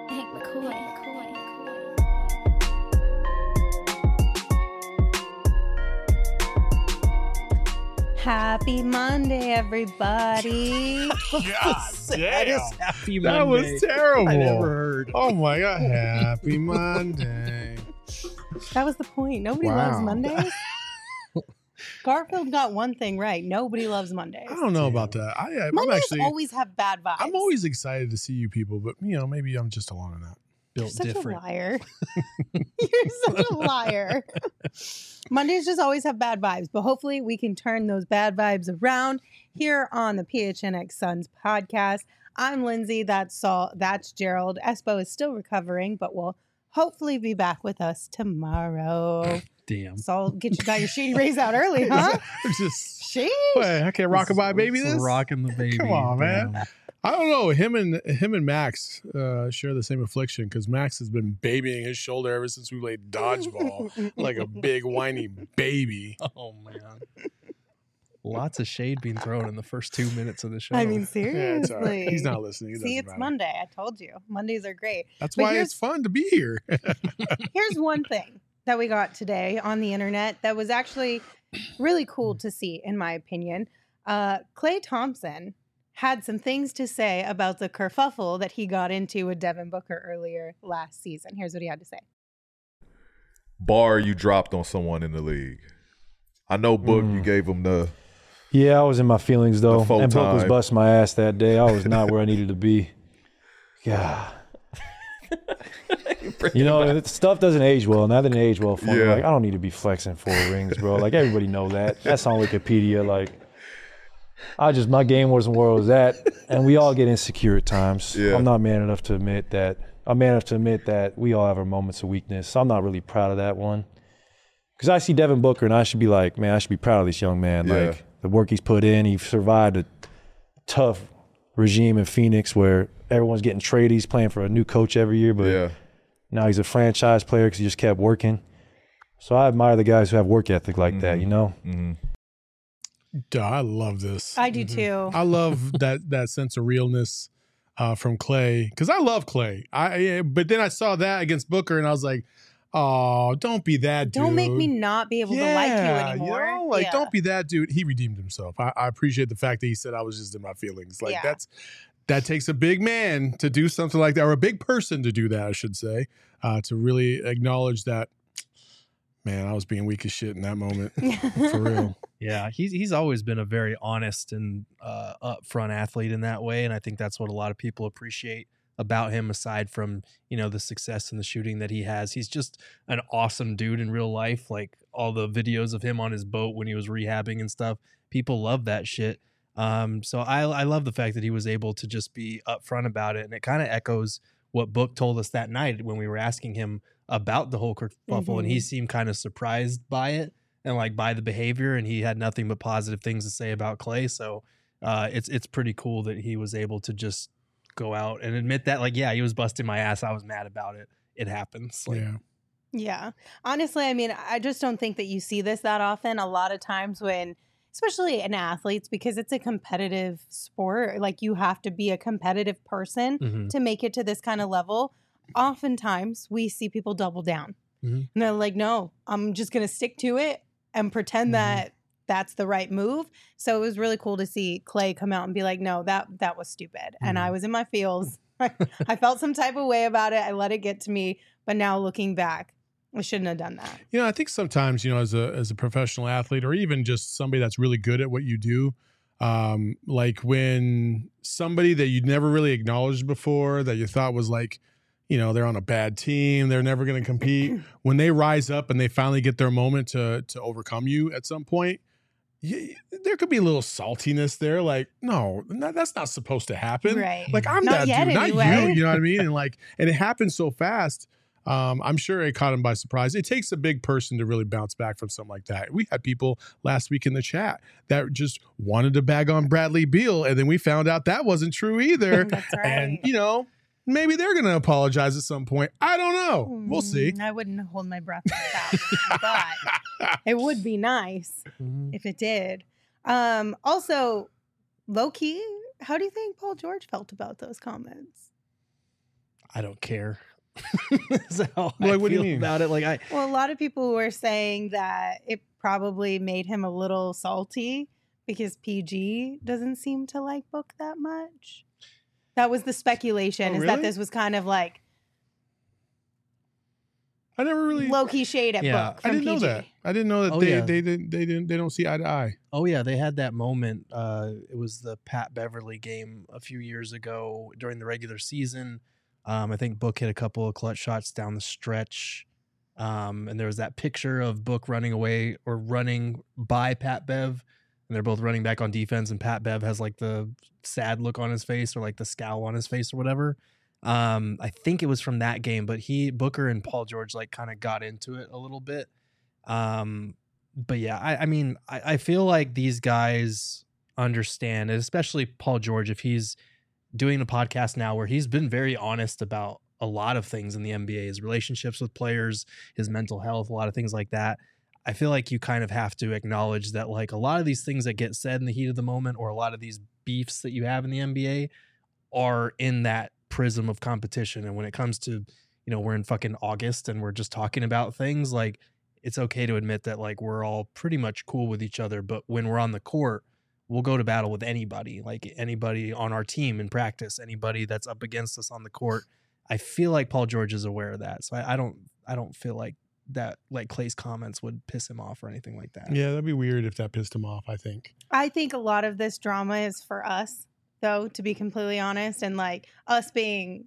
Hank McCoy. Happy Monday, everybody. God damn. Happy That Monday. was terrible. I never heard. Oh my God. Happy Monday. That was the point. Nobody loves Wow. Mondays. Garfield got one thing right. Nobody loves Mondays. I don't know about that. I'm Mondays actually, always have bad vibes. I'm always excited to see you people, but maybe I'm just alone in that. You're Built such different. a liar. You're such a liar. Mondays just always have bad vibes, but hopefully we can turn those bad vibes around here on the PHNX Suns podcast. I'm Lindsay. That's Saul. That's Gerald. Espo is still recovering, but will hopefully be back with us tomorrow. Damn. Saul, got your shady rays out early, huh? Just, Sheesh. wait, I can't rockabye baby this? Rocking the baby. Come on, man. Damn. I don't know. Him and Max share the same affliction because Max has been babying his shoulder ever since we played dodgeball like a big whiny baby. Oh, man. Lots of shade being thrown in the first 2 minutes of the show. I mean, Yeah, seriously. it's all right. He's not listening. It See, doesn't it's matter. Monday. I told you. Mondays are great. That's But why here's- it's fun to be here. Here's one thing that we got today on the internet that was actually really cool to see, in my opinion. Klay Thompson had some things to say about the kerfuffle that he got into with Devin Booker earlier last season. Here's what he had to say. Bar you dropped on someone in the league. I know Book, you gave him the Yeah, I was in my feelings though, full and Book was time. busting my ass that day. I was not where I needed to be. Yeah, you know, stuff doesn't age well. Now that it age well for me, Yeah. like I don't need to be flexing 4 rings, bro. Like everybody know that. That's on Wikipedia. Like my game wasn't where it was at, and we all get insecure at times. Yeah. I'm not man enough to admit that. I'm man enough to admit that we all have our moments of weakness. So I'm not really proud of that one. Because I see Devin Booker and I should be like, man, I should be proud of this young man. Yeah. Like the work he's put in, he survived a tough regime in Phoenix where everyone's getting traded. He's playing for a new coach every year, but yeah. now he's a franchise player because he just kept working. So I admire the guys who have work ethic like that, you know? Mm-hmm. Duh, I love this. I do too. I love that sense of realness from Klay because I love Klay. But then I saw that against Booker and I was like, oh, don't be that dude. Don't make me not be able to like you anymore. You know, like Yeah. don't be that dude. He redeemed himself. I appreciate the fact that he said I was just in my feelings. Like Yeah. that takes a big man to do something like that, or a big person to do that, I should say, to really acknowledge that. Man, I was being weak as shit in that moment, for real. Yeah, he's always been a very honest and upfront athlete in that way, and I think that's what a lot of people appreciate about him. Aside from the success and the shooting that he has, he's just an awesome dude in real life. Like all the videos of him on his boat when he was rehabbing and stuff, people love that shit. So I love the fact that he was able to just be upfront about it, and it kind of echoes what Book told us that night when we were asking him about the whole kerfuffle, and he seemed kind of surprised by it and like by the behavior, and he had nothing but positive things to say about Klay. So it's pretty cool that he was able to just go out and admit that, like, yeah, he was busting my ass. I was mad about it. It happens. Like, Yeah. Yeah. Honestly, I mean, I just don't think that you see this that often. A lot of times when, especially in athletes, because it's a competitive sport, like you have to be a competitive person Mhm. to make it to this kind of level. Oftentimes we see people double down. Mhm. And they're like, no, I'm just going to stick to it and pretend that that's the right move. So it was really cool to see Klay come out and be like, no, that was stupid. And I was in my feels. I felt some type of way about it. I let it get to me. But now looking back, I shouldn't have done that. I think sometimes, as a professional athlete or even just somebody that's really good at what you do, like when somebody that you'd never really acknowledged before that you thought was like, they're on a bad team, they're never going to compete. When they rise up and they finally get their moment to overcome you at some point, there could be a little saltiness there. Like, no, that's not supposed to happen. Right. Like, I'm Not that yet, dude, not anyway. you. You know what I mean? And it happens so fast. I'm sure it caught him by surprise. It takes a big person to really bounce back from something like that. We had people last week in the chat that just wanted to bag on Bradley Beal, and then we found out that wasn't true either. That's right. And, maybe they're going to apologize at some point. I don't know. We'll see. I wouldn't hold my breath for that, but it would be nice Mhm. if it did. Also, low key, how do you think Paul George felt about those comments? I don't care. That's how Like, I what do you feel mean? about it. Like Well, a lot of people were saying that it probably made him a little salty because PG doesn't seem to like Book that much. That was the speculation, Oh, is that really? this was kind of like I never really. low-key shade at Yeah, Book I from didn't know PG. that. I didn't know that Oh, they yeah. they don't see eye to eye. Oh yeah, they had that moment. It was the Pat Beverly game a few years ago during the regular season. I think Book hit a couple of clutch shots down the stretch, and there was that picture of Book running away or running by Pat Bev, and they're both running back on defense, and Pat Bev has like the sad look on his face or like the scowl on his face or whatever. I think it was from that game, but Booker and Paul George like kind of got into it a little bit. But yeah, I mean, I feel like these guys understand, and especially Paul George, if he's doing the podcast now where he's been very honest about a lot of things in the NBA, his relationships with players, his mental health, a lot of things like that. I feel like you kind of have to acknowledge that like a lot of these things that get said in the heat of the moment, or a lot of these beefs that you have in the NBA are in that prism of competition. And when it comes to, we're in fucking August and we're just talking about things, like it's okay to admit that like we're all pretty much cool with each other, but when we're on the court, we'll go to battle with anybody, like anybody on our team in practice, anybody that's up against us on the court. I feel like Paul George is aware of that. So I don't feel like that, like Clay's comments would piss him off or anything like that. Yeah, that'd be weird if that pissed him off, I think. I think a lot of this drama is for us, though, to be completely honest, and like us being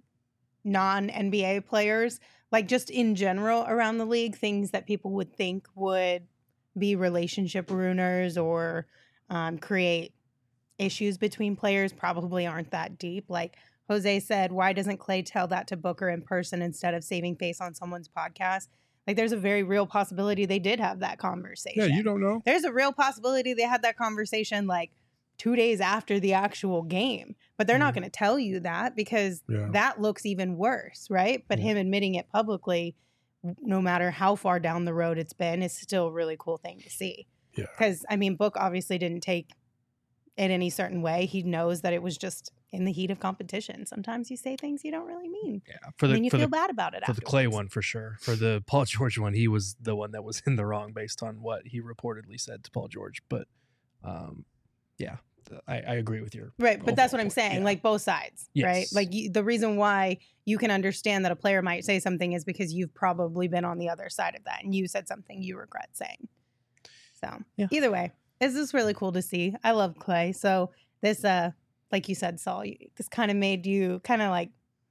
non-NBA players, like just in general around the league, things that people would think would be relationship ruiners or create issues between players probably aren't that deep. Like Jose said, why doesn't Clay tell that to Booker in person instead of saving face on someone's podcast? Like there's a very real possibility they did have that conversation. Yeah, you don't know. There's a real possibility they had that conversation like 2 days after the actual game, but they're not going to tell you that because that looks even worse, right? But him admitting it publicly, no matter how far down the road it's been, is still a really cool thing to see. Yeah. Because, I mean, Book obviously didn't take it any certain way. He knows that it was just in the heat of competition. Sometimes you say things you don't really mean. Yeah. And then you feel bad about it For the Clay afterwards. one, for sure. For the Paul George one, he was the one that was in the wrong based on what he reportedly said to Paul George. But yeah, I agree with your Right, but that's what I'm overall point. saying. Yeah. Like both sides, right? Yes. Like the reason why you can understand that a player might say something is because you've probably been on the other side of that and you said something you regret saying. So Yeah. either way, it's just really cool to see. I love Clay. So this, like you said, Saul, this kind of made you kind of like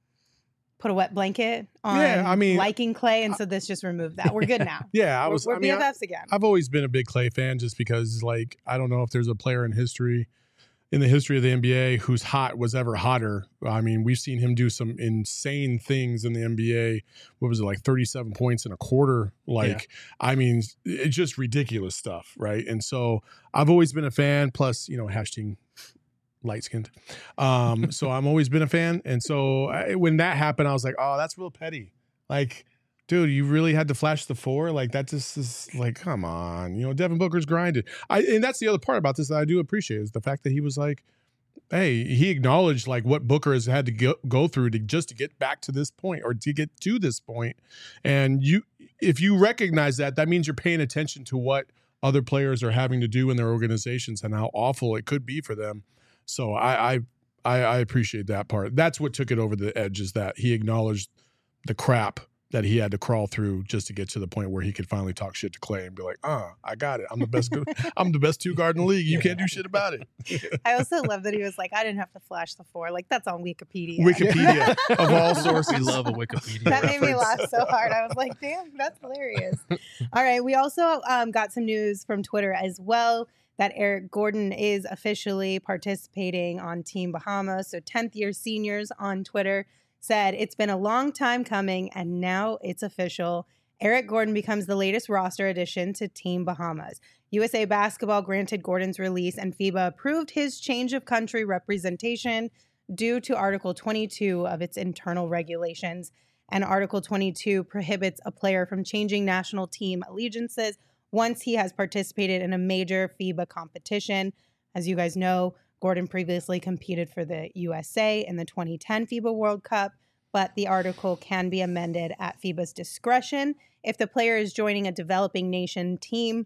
put a wet blanket on liking Clay. And so this just removed that. We're good now. Yeah, We're BFFs again. I've always been a big Clay fan just because, like, I don't know if there's a player in the history of the NBA whose hot was ever hotter. I mean, we've seen him do some insane things in the NBA. What was it, like 37 points in a quarter? Like, I mean, it's just ridiculous stuff, right? And so I've always been a fan. Plus, hashtag light skinned. So I've always been a fan. And so when that happened, I was like, oh, that's real petty. Like, dude, you really had to flash the 4? Like, that just is like, come on. Devin Booker's grinded. And that's the other part about this that I do appreciate is the fact that he was like, hey, he acknowledged like what Booker has had to go through to get back to this point or to get to this point. And if you recognize that means you're paying attention to what other players are having to do in their organizations and how awful it could be for them. So I appreciate that part. That's what took it over the edge, is that he acknowledged the crap that he had to crawl through just to get to the point where he could finally talk shit to Clay and be like, I got it. I'm the best. I'm the best 2 guard in the league. You can't do shit about it. I also love that he was like, I didn't have to flash the 4. Like, that's on Wikipedia. Wikipedia of all sources. We love a Wikipedia. That made me reference. laugh so hard. I was like, damn, that's hilarious. All right. We also got some news from Twitter as well that Eric Gordon is officially participating on Team Bahamas. So 10th year seniors on Twitter said it's been a long time coming and now it's official. Eric Gordon becomes the latest roster addition to Team Bahamas. USA Basketball granted Gordon's release and FIBA approved his change of country representation due to Article 22 of its internal regulations. And Article 22 prohibits a player from changing national team allegiances once he has participated in a major FIBA competition. As you guys know, Gordon previously competed for the USA in the 2010 FIBA World Cup, but the article can be amended at FIBA's discretion if the player is joining a developing national team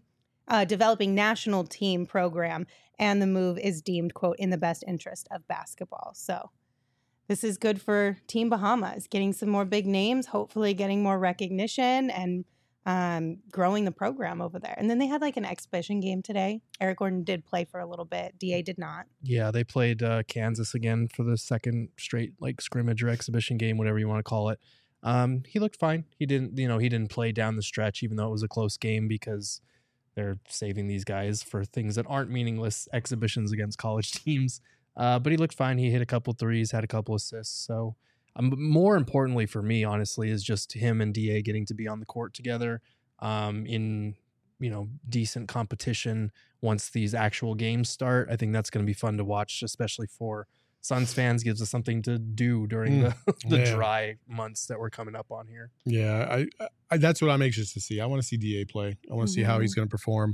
program, and the move is deemed, quote, in the best interest of basketball. So this is good for Team Bahamas, getting some more big names, hopefully getting more recognition and growing the program over there. And then they had like an exhibition game today. Eric Gordon did play for a little bit. DA did not. Yeah, they played Kansas again for the second straight like scrimmage or exhibition game, whatever you want to call it. He looked fine. He didn't play down the stretch, even though it was a close game, because they're saving these guys for things that aren't meaningless exhibitions against college teams. But he looked fine. He hit a couple threes, had a couple assists. So more importantly for me, honestly, is just him and DA getting to be on the court together in, decent competition once these actual games start. I think that's going to be fun to watch, especially for Suns fans. Gives us something to do during the dry months that we're coming up on here. Yeah, I that's what I'm anxious to see. I want to see DA play. I want to see how he's going to perform.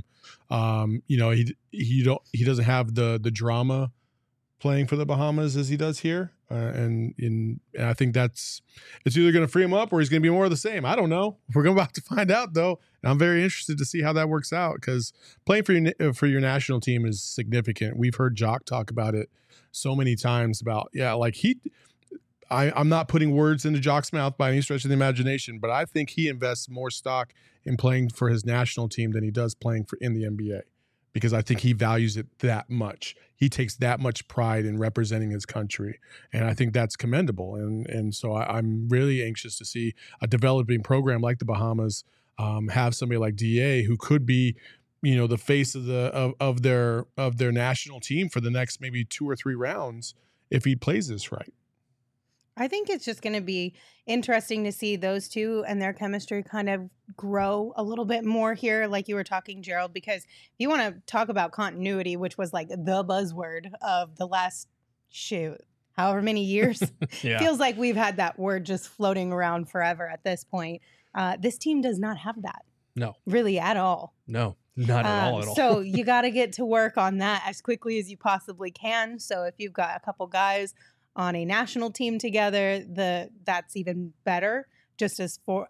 He doesn't have the drama playing for the Bahamas as he does here, and I think it's either going to free him up or he's going to be more of the same. I don't know. We're about to find out though, and I'm very interested to see how that works out, because playing for your national team is significant. We've heard Jock talk about it so many times about I'm not putting words into Jock's mouth by any stretch of the imagination, but I think he invests more stock in playing for his national team than he does playing in the NBA, because I think he values it that much. He takes that much pride in representing his country, and I think that's commendable. And so I'm really anxious to see a developing program like the Bahamas have somebody like DA who could be, the face of their national team for the next maybe 2 or 3 rounds if he plays this right. I think it's just going to be interesting to see those two and their chemistry kind of grow a little bit more here, like you were talking, Gerald, because if you want to talk about continuity, which was like the buzzword of the last, however many years, feels like we've had that word just floating around forever at this point. This team does not have that. No. Really at all. No, not at all. So you got to get to work on that as quickly as you possibly can. So if you've got a couple guys on a national team together, that's even better, just as far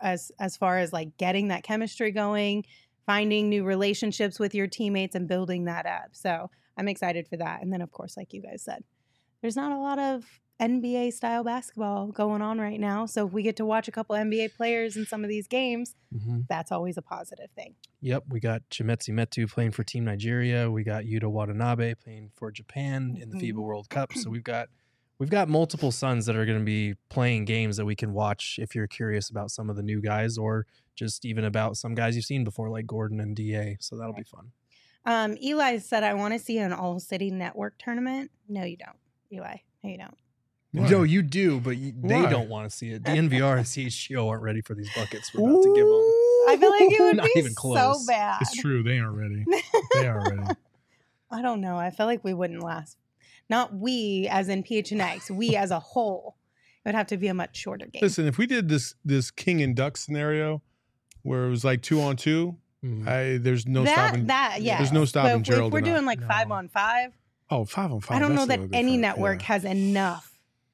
as like getting that chemistry going, finding new relationships with your teammates and building that up. So I'm excited for that. And then of course, like you guys said, there's not a lot of NBA style basketball going on right now. So if we get to watch a couple NBA players in some of these games, that's always a positive thing. Yep. We got Chimezie Metu playing for Team Nigeria. We got Yuta Watanabe playing for Japan in the FIBA World Cup. So we've got multiple Suns that are going to be playing games that we can watch if you're curious about some of the new guys, or just even about some guys you've seen before, like Gordon and DA. So that'll be fun. Eli said, I want to see an all-city network tournament. No, you don't, Eli. No, you don't. Why? No, you do, but they don't want to see it. DNVR and CHGO aren't ready for these buckets we're about to give them. I feel like it would Not be even close. so bad. It's true. They aren't ready. They aren't ready. I don't know. I feel like we wouldn't last. Not we as in PHNX, we as a whole. It would have to be a much shorter game. Listen, if we did this King and Duck scenario where it was like 2-on-2, there's no stopping. Yeah. There's no stopping but Gerald. If we're doing like 5-on-5. Oh, 5-on-5. I don't know that's that a little any different. network has enough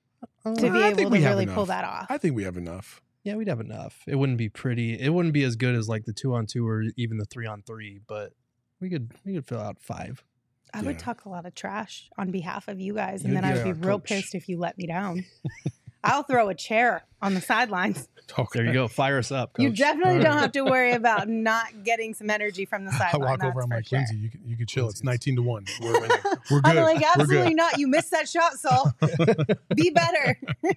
to be I think able we to have really enough. pull that off. I think we have enough. Yeah, we'd have enough. It wouldn't be pretty. It wouldn't be as good as like the 2-on-2 or even the 3-on-3, but we could fill out 5. I would talk a lot of trash on behalf of you guys, and You'd then I be would be our real coach. pissed if you let me down. I'll throw a chair on the sidelines. Okay. There you go. Fire us up, Coach. You definitely don't have to worry about not getting some energy from the I sideline. walk over. I'm that's like, for sure. Lindsay, you can chill. It's 19-1. We're winning. We're good. I'm like, We're absolutely good. not. You missed that shot, Saul. Be better.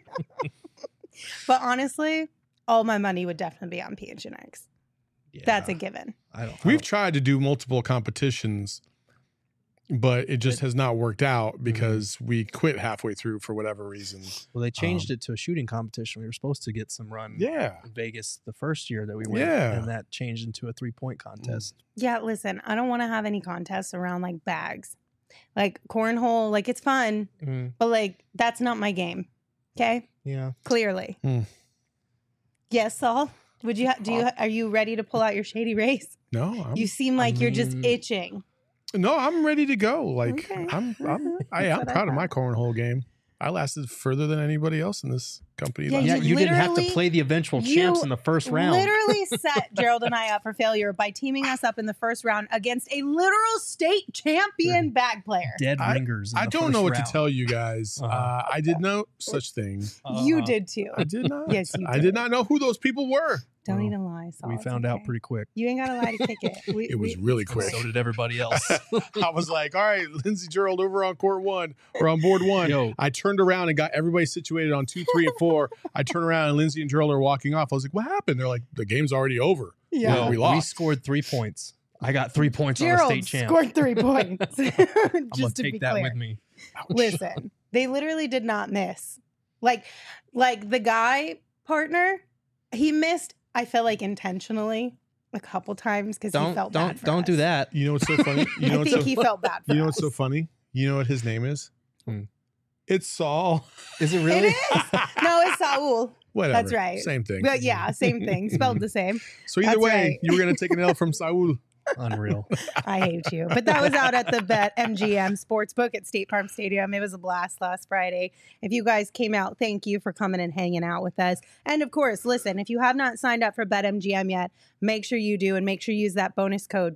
But honestly, all my money would definitely be on PHNX. Yeah, That's a given. We've tried to do multiple competitions, but it just has not worked out because we quit halfway through for whatever reason. Well, they changed it to a shooting competition. We were supposed to get some run Yeah. in Vegas the first year that we went, Yeah. and that changed into a 3-point contest. Yeah, listen, I don't want to have any contests around like bags. Like cornhole, like it's fun, but like that's not my game. Okay? Yeah. Clearly. Yes, Saul. Would you are you ready to pull out your shady race? No, You seem like you're just itching. I'm ready to go. Like Okay. I'm That's proud what I of my cornhole game. I lasted further than anybody else in this company. Yeah, last Yeah, year. you didn't have to literally- play the eventual you champs in the first round. Literally set Gerald and I up for failure by teaming us up in the first round against a literal state champion bag player. Dead ringers. In I the don't first know what round. to tell you guys. Uh-huh. I did no such thing. You Uh-huh. did too. I did not. Yes, you I did. did not know who those people were. Don't Well, even lie. Saul. We It's found out okay. pretty quick. You ain't got to lie to kick it. It was really And quick. so did everybody else. I was like, all right, Lindsey Gerald over on court 1 or on board 1. Yo. I turned around and got everybody situated on 2, 3, and 4. I turned around and Lindsey and Gerald are walking off. I was like, what happened? They're like, the game's already over. Yeah. Well, we We lost. scored 3 points. I got 3 points on Gerald the state champ. scored 3 points. I'm gonna Just to be take that clear. with me. Listen, they literally did not miss. Like the guy partner, he missed. I feel like intentionally a couple times because he felt bad. For Don't do us. that. You know what's so funny? You know I what's think so he felt bad. For You know us. what's so funny? You know what his name is? Hmm. It's Saul. Is it It really? is. No, it's Saul. Whatever. That's right. Same thing. But yeah, same thing, spelled the same. So either That's way, right. you were going to take an L from Saul. Unreal. I hate you. But that was out at the Bet MGM Sportsbook at State Farm Stadium. It was a blast last Friday. If you guys came out, thank you for coming and hanging out with us. And of course, listen, if you have not signed up for Bet MGM yet, make sure you do and make sure you use that bonus code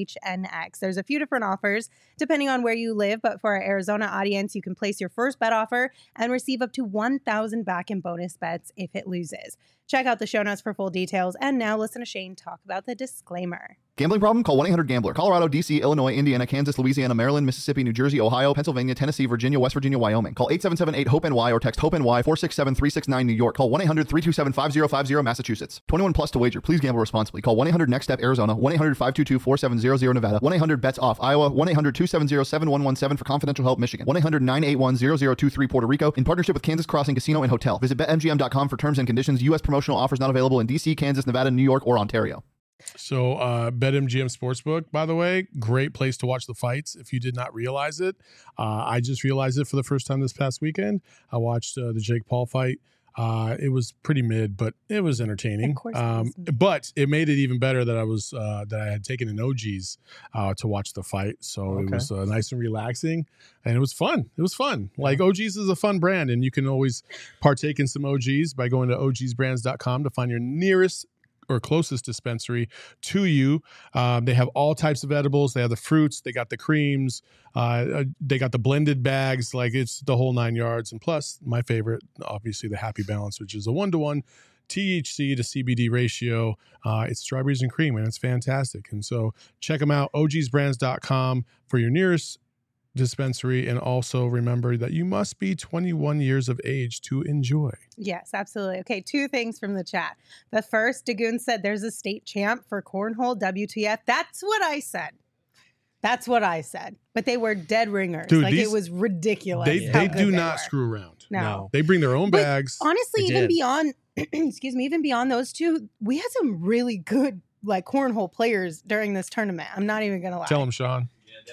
PHNX. There's a few different offers depending on where you live, but for our Arizona audience, you can place your first bet offer and receive up to $1,000 back in bonus bets if it loses. Check out the show notes for full details. And now listen to Shane talk about the disclaimer. Gambling problem? Call 1-800-GAMBLER. Colorado, D.C., Illinois, Indiana, Kansas, Louisiana, Maryland, Mississippi, New Jersey, Ohio, Pennsylvania, Tennessee, Virginia, West Virginia, Wyoming. Call 877-8-HOPE-NY or text HOPE-NY 467-369 New York. Call 1-800-327-5050 Massachusetts. 21 plus to wager. Please gamble responsibly. Call 1-800-NEXT-STEP Arizona. 1-800-522-4700 Nevada. 1-800-BETS-OFF Iowa. 1-800-270-7117 for confidential help Michigan. 1-800-981-0023 Puerto Rico. In partnership with Kansas Crossing Casino and Hotel. Visit BetMGM.com for terms and conditions. U.S. promotional offers not available in D.C., Kansas, Nevada, New York, or Ontario. So BetMGM Sportsbook, by the way, great place to watch the fights if you did not realize it. I just realized it for the first time this past weekend. I watched the Jake Paul fight. It was pretty mid, but it was entertaining. Of course it was mid. But it made it even better that I had taken an OG's to watch the fight. So it was nice and relaxing, and it was fun. It was fun. Like OG's is a fun brand, and you can always partake in some OG's by going to ogsbrands.com to find your nearest or closest dispensary to you. They have all types of edibles. They have the fruits. They got the creams. They got the blended bags. Like it's the whole 9 yards. And plus, my favorite, obviously, the Happy Balance, which is a 1-to-1 THC to CBD ratio. It's strawberries and cream, and it's fantastic. And so check them out, ogsbrands.com for your nearest dispensary. And also remember that you must be 21 years of age to enjoy. Yes, absolutely. Okay, 2 things from the chat. The first, Dagoon said there's a state champ for cornhole, WTF. That's what I said. That's what I said. But they were dead ringers. Dude, like these- it was ridiculous. They how do good not were. screw around. No. They bring their own But bags. Honestly, They even did. beyond, excuse me, even beyond those 2, we had some really good like cornhole players during this tournament. I'm not even gonna lie. Tell them, Sean.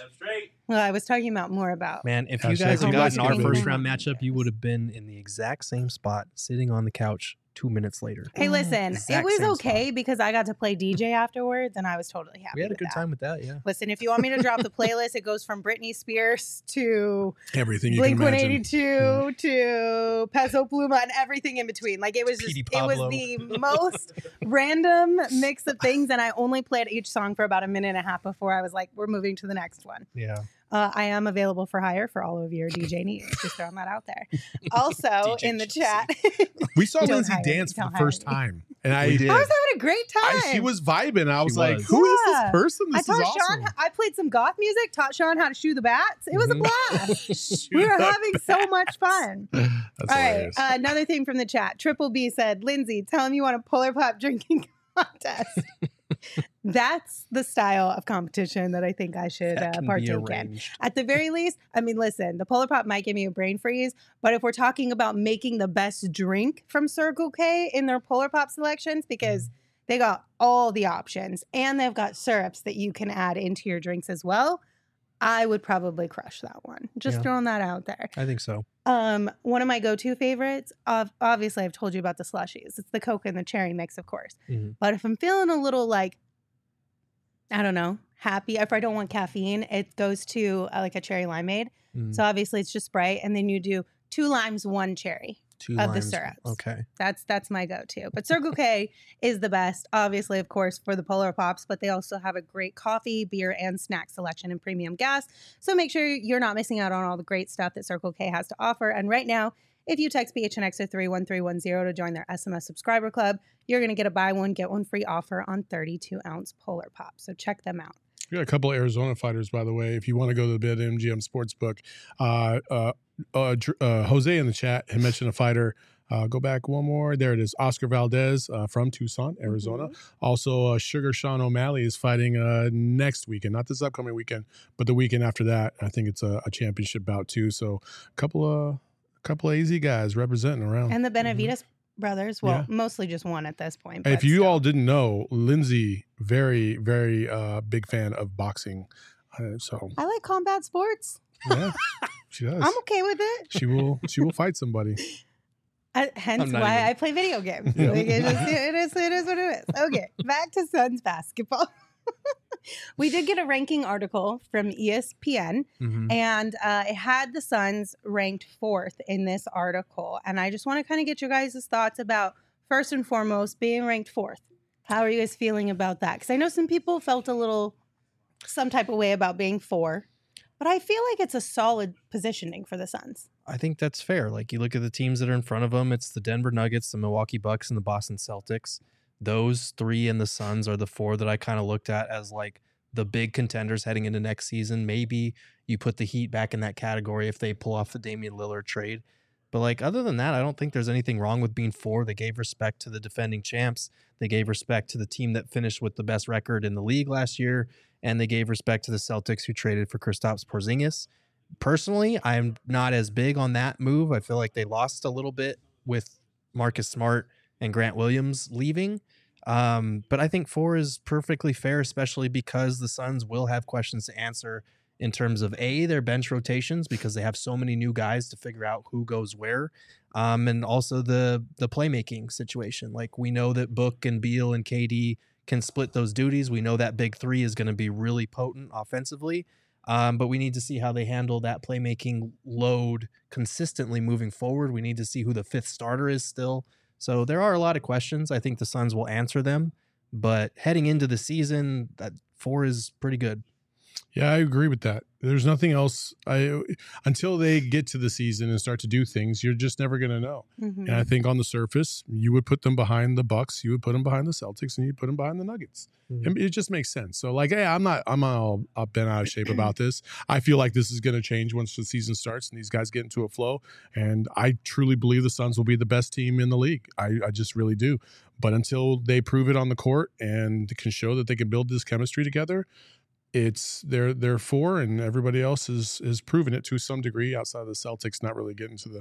Well, I was talking about more about. Man, if Gosh, you guys I had think gotten our that's first good. round matchup, you would have been in the exact same spot, sitting on the couch 2 minutes later. Hey, listen, it Exact was same okay because I got to play DJ afterwards, and I was totally happy. We had a with good that. time with that, yeah. Listen, if you want me to drop the playlist, it goes from Britney Spears to Everything you Blink can imagine. 182 to Peso Pluma and everything in between. Like it was just, Petey it was Pablo. the most random mix of things, and I only played each song for about a minute and a half before I was like, "We're moving to the next one." Yeah. I am available for hire for all of your DJ needs. Just throwing that out there. Also in the chat, We saw Don't Lindsay hire me, dance for don't the hire first me. time. And We I did. I was having a great time. she was vibing. I was She like, was. who is Yeah. this person? I This is taught awesome. Sean. I played some goth music. Taught Sean how to shoot the bats. It was a Mhm. blast. We were having so much fun. That's All right. hilarious. Another thing from the chat. Triple B said, Lindsay, tell him you want a Polar Pop drinking contest. That's the style of competition that I think I should That can be partake in. arranged. At the very least, I mean, listen, the Polar Pop might give me a brain freeze, but if we're talking about making the best drink from Circle K in their Polar Pop selections, because they got all the options and they've got syrups that you can add into your drinks as well, I would probably crush that one. Just Yeah. throwing that out there. I think so. One of my go-to favorites, obviously I've told you about the slushies. It's the Coke and the cherry mix, of course. Mhm. But if I'm feeling a little like, I don't know, happy, if I don't want caffeine, it goes to like a cherry limeade. Mm. So obviously it's just Sprite, and then you do 2 limes, 1 cherry. 2 of the limes. syrups. Okay. That's my go-to. But Circle K is the best, obviously, of course, for the Polar Pops, but they also have a great coffee, beer, and snack selection and premium gas. So make sure you're not missing out on all the great stuff that Circle K has to offer. And right now, if you text PHNX to 31310 to join their SMS subscriber club, you're going to get a buy one, get one free offer on 32-ounce Polar Pops. So check them out. We got a couple of Arizona fighters, by the way. If you want to go to the BetMGM Sportsbook, Jose in the chat had mentioned a fighter. Go back one more. There it is. Oscar Valdez from Tucson, Arizona. Also, Sugar Sean O'Malley is fighting next weekend, not this upcoming weekend, but the weekend after that. I think it's a championship bout too. So a couple of easy guys representing around. And the Benavides brothers, well, Yeah. mostly just one at this point. If but you still. all didn't know, Lindsay, very, very big fan of boxing. So I like combat sports. yeah, she does. I'm okay with it. She will fight somebody. Hence I'm not why even- I play video games. Yeah. Like, it is what it is. Okay, back to Suns basketball. We did get a ranking article from ESPN, Mhm. and it had the Suns ranked 4th in this article. And I just want to kind of get your guys' thoughts about, first and foremost, being ranked 4th. How are you guys feeling about that? Because I know some people felt some type of way about being 4, but I feel like it's a solid positioning for the Suns. I think that's fair. Like, you look at the teams that are in front of them, it's the Denver Nuggets, the Milwaukee Bucks, and the Boston Celtics. Those 3 and the Suns are the 4 that I kind of looked at as like the big contenders heading into next season. Maybe you put the Heat back in that category if they pull off the Damian Lillard trade. But like, other than that, I don't think there's anything wrong with being 4. They gave respect to the defending champs. They gave respect to the team that finished with the best record in the league last year. And they gave respect to the Celtics who traded for Kristaps Porzingis. Personally, I'm not as big on that move. I feel like they lost a little bit with Marcus Smart and Grant Williams leaving. But I think 4 is perfectly fair, especially because the Suns will have questions to answer in terms of their bench rotations, because they have so many new guys to figure out who goes where. And also the playmaking situation. Like, we know that Book and Beal and KD can split those duties. We know that big 3 is going to be really potent offensively. But we need to see how they handle that playmaking load consistently moving forward. We need to see who the 5th starter is still. So there are a lot of questions. I think the Suns will answer them. But heading into the season, that 4 is pretty good. Yeah, I agree with that. There's nothing else. Until they get to the season and start to do things, you're just never going to know. Mhm. And I think on the surface, you would put them behind the Bucks, you would put them behind the Celtics, and you put them behind the Nuggets. Mhm. And it just makes sense. So, like, hey, I'm all bent out of shape about this. I feel like this is going to change once the season starts and these guys get into a flow. And I truly believe the Suns will be the best team in the league. I just really do. But until they prove it on the court and can show that they can build this chemistry together, they're 4, and everybody else is proven it to some degree outside of the Celtics not really getting to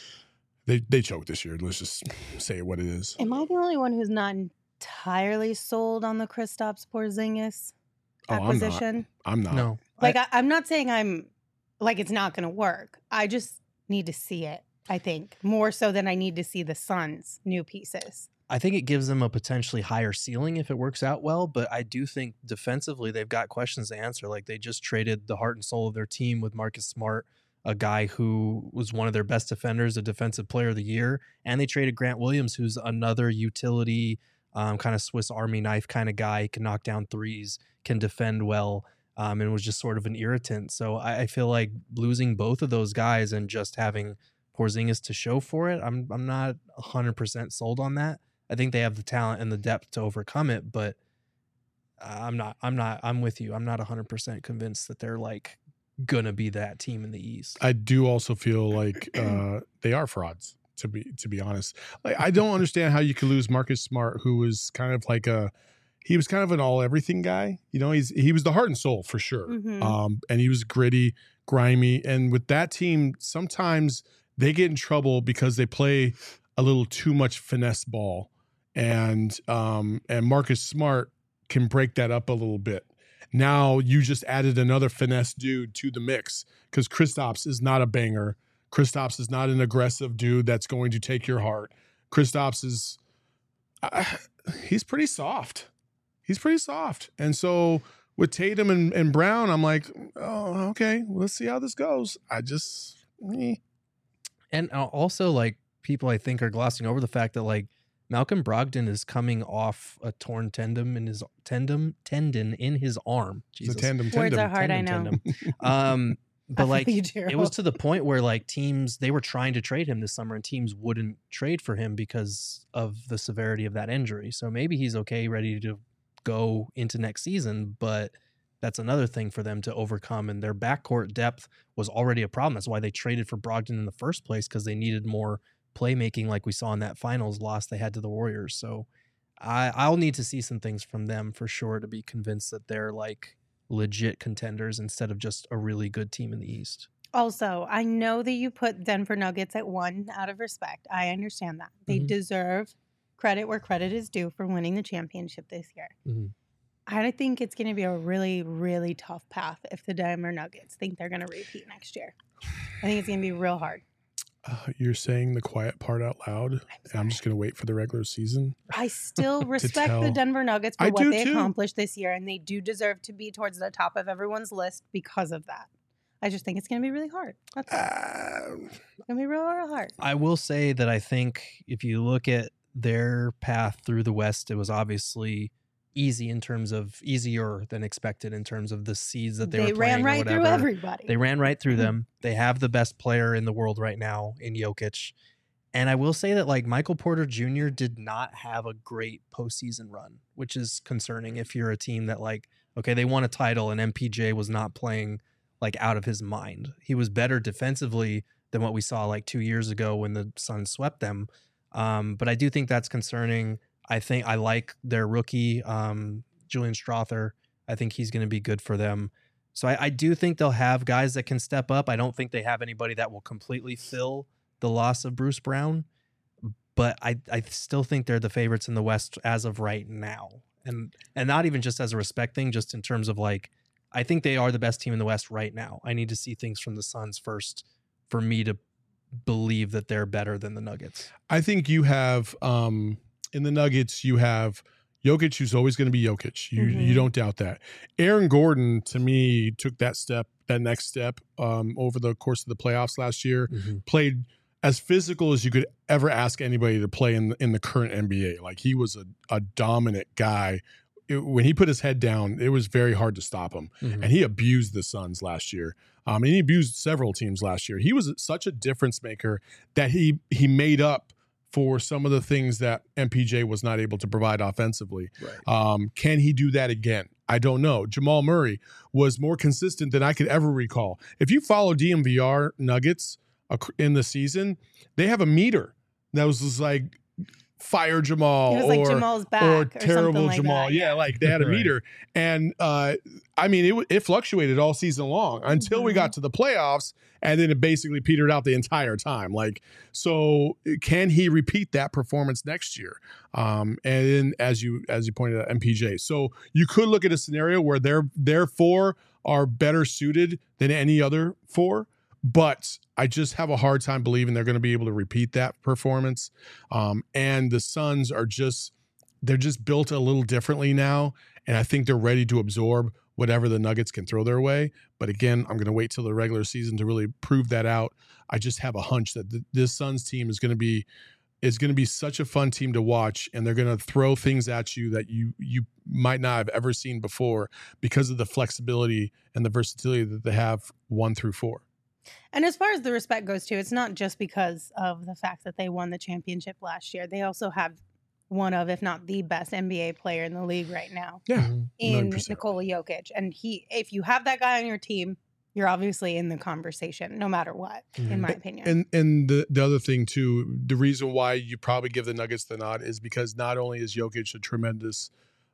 they choked this year. Let's just say what it is. Am I the only one who's not entirely sold on the Kristaps Porzingis Oh, I'm not. acquisition? I'm not. No. Like, I'm not saying I'm like it's not going to work. I just need to see it, I think, more so than I need to see the Suns' new pieces. I think it gives them a potentially higher ceiling if it works out well, but I do think defensively they've got questions to answer. Like, they just traded the heart and soul of their team with Marcus Smart, a guy who was one of their best defenders, a defensive player of the year, and they traded Grant Williams, who's another utility kind of Swiss Army knife kind of guy, can knock down threes, can defend well, and was just sort of an irritant. So I feel like losing both of those guys and just having Porzingis to show for it, I'm not 100% sold on that. I think they have the talent and the depth to overcome it, but I'm with you. I'm not 100% convinced that they're like gonna be that team in the East. I do also feel like they are frauds, to be honest. Like, I don't understand how you could lose Marcus Smart, who was kind of like he was kind of an all everything guy. You know, he was the heart and soul for sure. Mhm. And he was gritty, grimy, and with that team, sometimes they get in trouble because they play a little too much finesse ball. And Marcus Smart can break that up a little bit. Now you just added another finesse dude to the mix because Kristaps is not a banger. Kristaps is not an aggressive dude that's going to take your heart. Kristaps is he's pretty soft. He's pretty soft. And so with Tatum and Brown, I'm like, oh, okay, let's see how this goes. And also, like, people I think are glossing over the fact that like Malcolm Brogdon is coming off a torn tendon in his arm. It's a Jesus. tandem. Words are hard, I know. But I like feel you, Gerald. it was to the point where like teams, they were trying to trade him this summer and teams wouldn't trade for him because of the severity of that injury. So maybe he's okay, ready to go into next season, but that's another thing for them to overcome. And their backcourt depth was already a problem. That's why they traded for Brogdon in the first place, because they needed more playmaking, like we saw in that finals loss they had to the Warriors. So I'll need to see some things from them for sure to be convinced that they're like legit contenders instead of just a really good team in the East. Also, I know that you put Denver Nuggets at 1 out of respect. I understand that. They Mhm. deserve credit where credit is due for winning the championship this year. Mhm. I think it's going to be a really, really tough path if the Denver Nuggets think they're going to repeat next year. I think it's going to be real hard. You're saying the quiet part out loud, and I'm just going to wait for the regular season. I still respect the tell. Denver Nuggets for I what do they too. accomplished this year, and they do deserve to be towards the top of everyone's list because of that. I just think it's going to be really hard. That's all. It's going to be real, real hard. I will say that I think if you look at their path through the West, it was obviously easy in terms of easier than expected in terms of the seeds that they were playing ran or right through whatever. everybody. They ran right through them. They have the best player in the world right now in Jokic. And I will say that like Michael Porter Jr. did not have a great postseason run, which is concerning if you're a team that like, okay, they won a title and MPJ was not playing like out of his mind. He was better defensively than what we saw like 2 years ago when the Suns swept them. But I do think that's concerning. I think I like their rookie, Julian Strother. I think he's going to be good for them. So I do think they'll have guys that can step up. I don't think they have anybody that will completely fill the loss of Bruce Brown, but I still think they're the favorites in the West as of right now. And not even just as a respect thing, just in terms of like, I think they are the best team in the West right now. I need to see things from the Suns first for me to believe that they're better than the Nuggets. I think you have in the Nuggets, you have Jokic, who's always going to be Jokic. You don't doubt that. Aaron Gordon, to me, took that next step over the course of the playoffs last year. Played as physical as you could ever ask anybody to play in the current NBA. Like he was a dominant guy. When he put his head down, it was very hard to stop him. And he abused the Suns last year. And he abused several teams last year. He was such a difference maker that he made up for some of the things that MPJ was not able to provide offensively. Right. Can he do that again? I don't know. Jamal Murray was more consistent than I could ever recall. If you follow DMVR Nuggets in the season, they have a meter that was just like fire Jamal, It was like Jamal's back or terrible something like Jamal. that, Yeah, like they had a Right. meter. And I mean, it fluctuated all season long until we got to the playoffs, and then it basically petered out the entire time. Like, so can he repeat that performance next year? And then as you pointed out, MPJ. So you could look at a scenario where their four are better suited than any other four. But I just have a hard time believing they're going to be able to repeat that performance. And the Suns they're just built a little differently now. And I think they're ready to absorb whatever the Nuggets can throw their way. But again, I'm going to wait till the regular season to really prove that out. I just have a hunch that this Suns team is going to be such a fun team to watch, and they're going to throw things at you that you might not have ever seen before because of the flexibility and the versatility that they have 1 through 4. And as far as the respect goes too, it's not just because of the fact that they won the championship last year. They also have one of, if not the best NBA player in the league right now Yeah, in 100%. Nikola Jokic. And if you have that guy on your team, you're obviously in the conversation no matter what, in my opinion. And the other thing too, the reason why you probably give the Nuggets the nod is because not only is Jokic a tremendous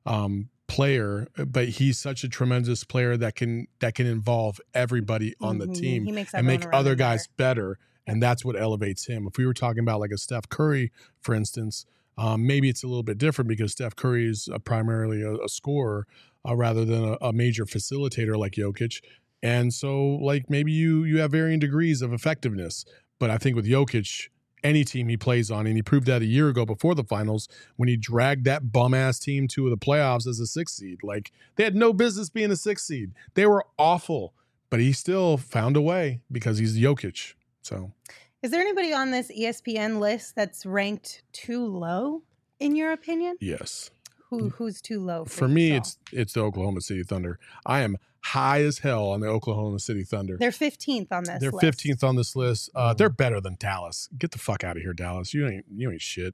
player, but he's such a tremendous player that can involve everybody on the team He makes and make everyone around other him guys better. And that's what elevates him. If we were talking about like a Steph Curry, for instance, maybe it's a little bit different because Steph Curry is primarily a scorer rather than a major facilitator like Jokic. And so like maybe you have varying degrees of effectiveness. But I think with Jokic, any team he plays on, and he proved that a year ago before the finals when he dragged that bum-ass team to the playoffs as a 6th seed. Like, they had no business being a 6th seed. They were awful, but he still found a way because he's Jokic. So Is there anybody on this ESPN list that's ranked too low, in your opinion? Yes. Who's too low? For me, it's the Oklahoma City Thunder. I am high as hell on the Oklahoma City Thunder. They're 15th on this. They're list. 15th on this list. They're better than Dallas. Get the fuck out of here, Dallas. You ain't shit.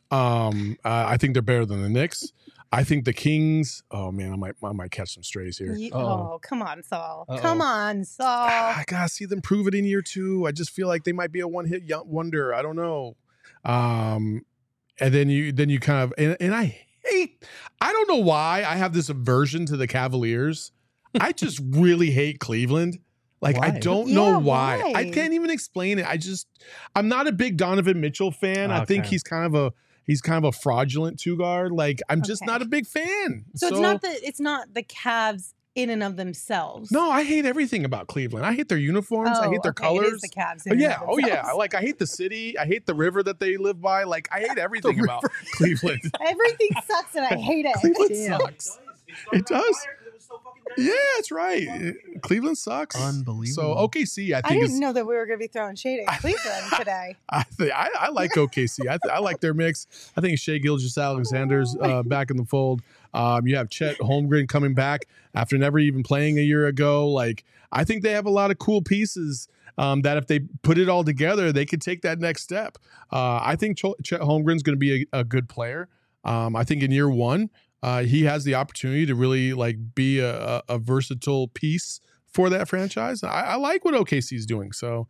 I think they're better than the Knicks. I think the Kings. Oh man, I might catch some strays here. Oh, come on, Saul. Uh-oh. Come on, Saul. I gotta see them prove it in year 2. I just feel like they might be a one-hit wonder. I don't know. And then you kind of and I don't know why I have this aversion to the Cavaliers. I just really hate Cleveland. Like, Why? I don't know why. why? I can't even explain it. I'm not a big Donovan Mitchell fan. I think Okay. he's kind of a fraudulent 2-guard. Like, I'm just Okay. not a big fan. So it's not the Cavs in and of themselves. No, I hate everything about Cleveland. I hate their uniforms. I hate their It colors. is the Cavs. Oh, in and yeah. of Oh, yeah. themselves. I hate the city. I hate the river that they live by. Like, I hate everything about Cleveland. Everything sucks and I hate it. Cleveland Damn. sucks. It does. Yeah, that's right. Cleveland sucks. Unbelievable. So OKC, I I think didn't know that we were going to be throwing shade at Cleveland today. I like OKC. I like their mix. I think Shea Gilgeous-Alexander's back in the fold. You have Chet Holmgren coming back after never even playing a year ago. Like, I think they have a lot of cool pieces that if they put it all together, they could take that next step. I think Chet Holmgren's going to be a good player. I think in year 1, he has the opportunity to really like be a versatile piece for that franchise. I like what OKC is doing. So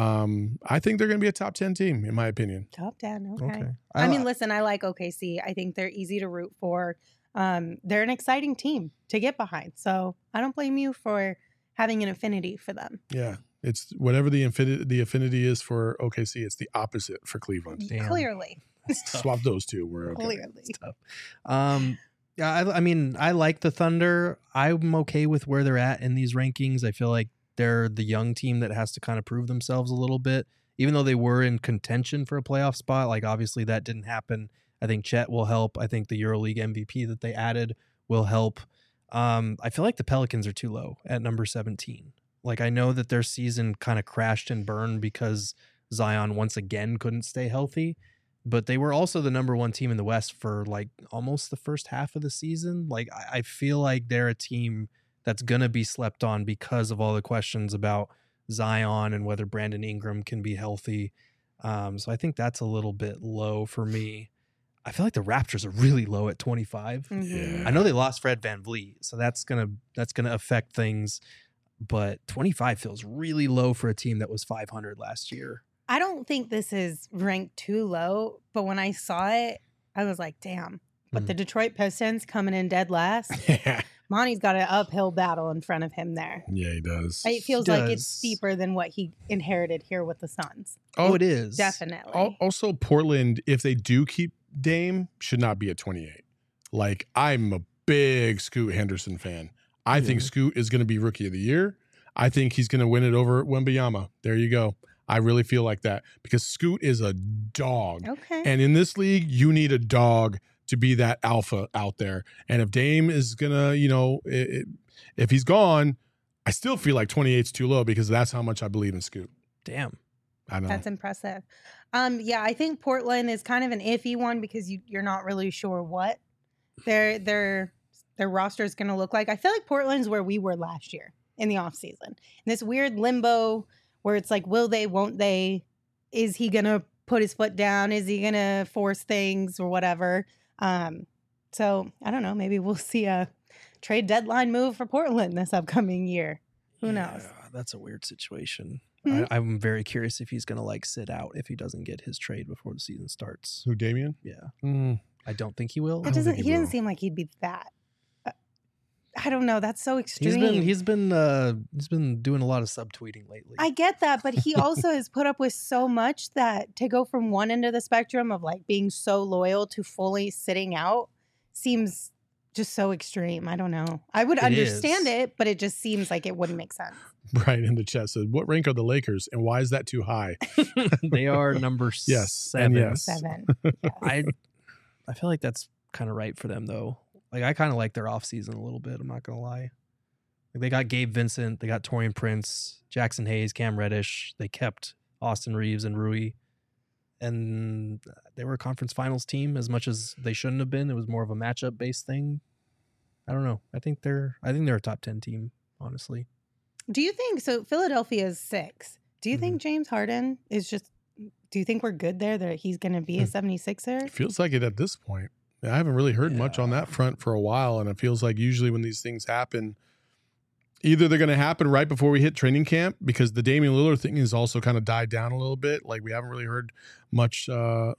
I think they're going to be a top 10 team, in my opinion. Top 10. Okay. Okay. I mean, listen, I like OKC. I think they're easy to root for. They're an exciting team to get behind. So I don't blame you for having an affinity for them. Yeah. It's whatever the affinity is for OKC, it's the opposite for Cleveland. Damn. Clearly. Swap those two. We're okay. Clearly. Yeah, I mean, I like the Thunder. I'm okay with where they're at in these rankings. I feel like they're the young team that has to kind of prove themselves a little bit, even though they were in contention for a playoff spot. Like, obviously that didn't happen. I think Chet will help. I think the EuroLeague MVP that they added will help. I feel like the Pelicans are too low at number 17. Like, I know that their season kind of crashed and burned because Zion once again couldn't stay healthy. But they were also the number 1 team in the West for like almost the first half of the season. Like, I feel like they're a team that's going to be slept on because of all the questions about Zion and whether Brandon Ingram can be healthy. So I think that's a little bit low for me. I feel like the Raptors are really low at 25. Mhm. I know they lost Fred VanVleet, so that's gonna affect things. But 25 feels really low for a team that was 500 last year. I don't think this is ranked too low, but when I saw it, I was like, damn. But the Detroit Pistons coming in dead last, Yeah. Monty's got an uphill battle in front of him there. Yeah, he does. It feels He like it's does. steeper than what he inherited here with the Suns. Oh, it is. Definitely. Also, Portland, if they do keep Dame, should not be at 28. Like, I'm a big Scoot Henderson fan. I think Scoot is going to be Rookie of the Year. I think he's going to win it over Wembanyama. There you go. I really feel like that because Scoot is a dog. Okay. And in this league, you need a dog to be that alpha out there. And if Dame is going to, if he's gone, I still feel like 28 is too low because that's how much I believe in Scoot. Damn. I don't know. That's impressive. Yeah, I think Portland is kind of an iffy one because you're not really sure what their roster is going to look like. I feel like Portland's where we were last year in the offseason. In this weird limbo where it's like, will they, won't they? Is he going to put his foot down? Is he going to force things or whatever? So I don't know. Maybe we'll see a trade deadline move for Portland this upcoming year. Who knows? Yeah, that's a weird situation. Hmm? I'm very curious if he's going to like sit out if he doesn't get his trade before the season starts. Who, Damian? Yeah. I don't think he will. That don't doesn't. think He he doesn't will. seem like he'd be that. I don't know. That's so extreme. He's been doing a lot of subtweeting lately. I get that, but he also has put up with so much that to go from one end of the spectrum of like being so loyal to fully sitting out seems just so extreme. I don't know. I would It understand is. it, but it just seems like it wouldn't make sense. Brian in the chat says, what rank are the Lakers and why is that too high? They are number Yes, 7. and yes. 7. I feel like that's kind of right for them though. Like I kind of like their offseason a little bit. I'm not gonna lie. Like, they got Gabe Vincent, they got Taurean Prince, Jackson Hayes, Cam Reddish. They kept Austin Reeves and Rui. And they were a conference finals team as much as they shouldn't have been. It was more of a matchup based thing. I don't know. I think they're a top 10 team, honestly. Do you think so? Philadelphia is 6. Do you think James Harden is just? Do you think we're good there that he's going to be a 76er? It feels like it at this point. I haven't really heard much on that front for a while, and it feels like usually when these things happen, either they're going to happen right before we hit training camp, because the Damian Lillard thing has also kind of died down a little bit. Like we haven't really heard much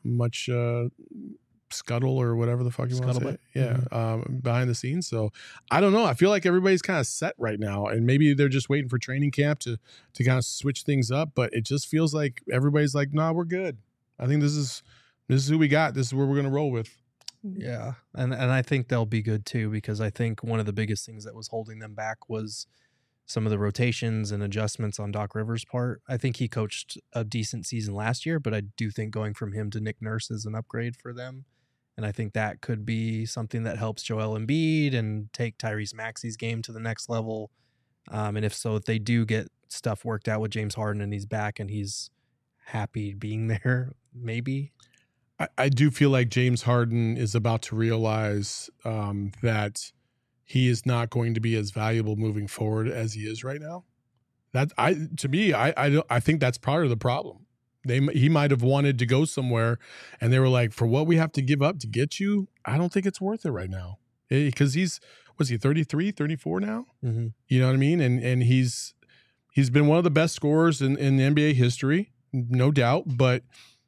scuttle or whatever the fuck you want to say. Behind the scenes. So I don't know. I feel like everybody's kind of set right now, and maybe they're just waiting for training camp to kind of switch things up. But it just feels like everybody's like, nah, we're good. I think this is who we got. This is where we're going to roll with. Yeah. And I think they'll be good too, because I think one of the biggest things that was holding them back was some of the rotations and adjustments on Doc Rivers' part. I think he coached a decent season last year, but I do think going from him to Nick Nurse is an upgrade for them. And I think that could be something that helps Joel Embiid and take Tyrese Maxey's game to the next level. And if they do get stuff worked out with James Harden and he's back and he's happy being there, maybe. I do feel like James Harden is about to realize that he is not going to be as valuable moving forward as he is right now. I think that's part of the problem. He might have wanted to go somewhere, and they were like, for what we have to give up to get you, I don't think it's worth it right now. Because was he 33, 34 now? Mm-hmm. You know what I mean? And he's been one of the best scorers in NBA history, no doubt. But,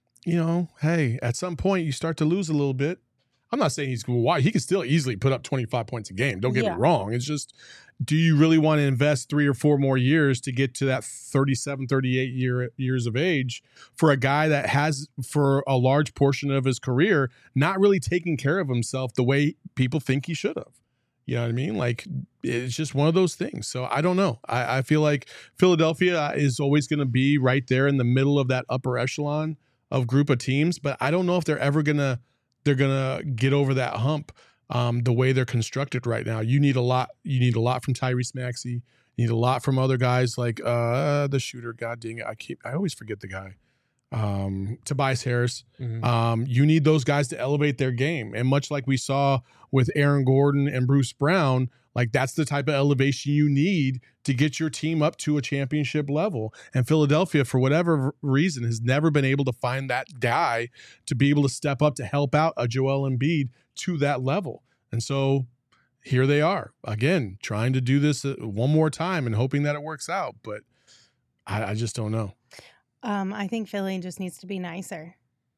hey, at some point you start to lose a little bit. I'm not saying he's wide. He can still easily put up 25 points a game. Don't get me wrong. It's just, do you really want to invest 3 or 4 more years to get to that 37, 38 years of age for a guy that has, for a large portion of his career, not really taking care of himself the way people think he should have? You know what I mean? Like, it's just one of those things. So I don't know. I feel like Philadelphia is always going to be right there in the middle of that upper echelon of group of teams, but I don't know if they're ever going to get over that hump the way they're constructed right now. You need a lot from Tyrese Maxey. You need a lot from other guys like the shooter. God dang it. I always forget the guy. Tobias Harris. Mm-hmm. You need those guys to elevate their game. And much like we saw with Aaron Gordon and Bruce Brown, like that's the type of elevation you need to get your team up to a championship level. And Philadelphia, for whatever reason, has never been able to find that guy to be able to step up to help out a Joel Embiid to that level. And so here they are again, trying to do this one more time and hoping that it works out. But I just don't know. I think Philly just needs to be nicer.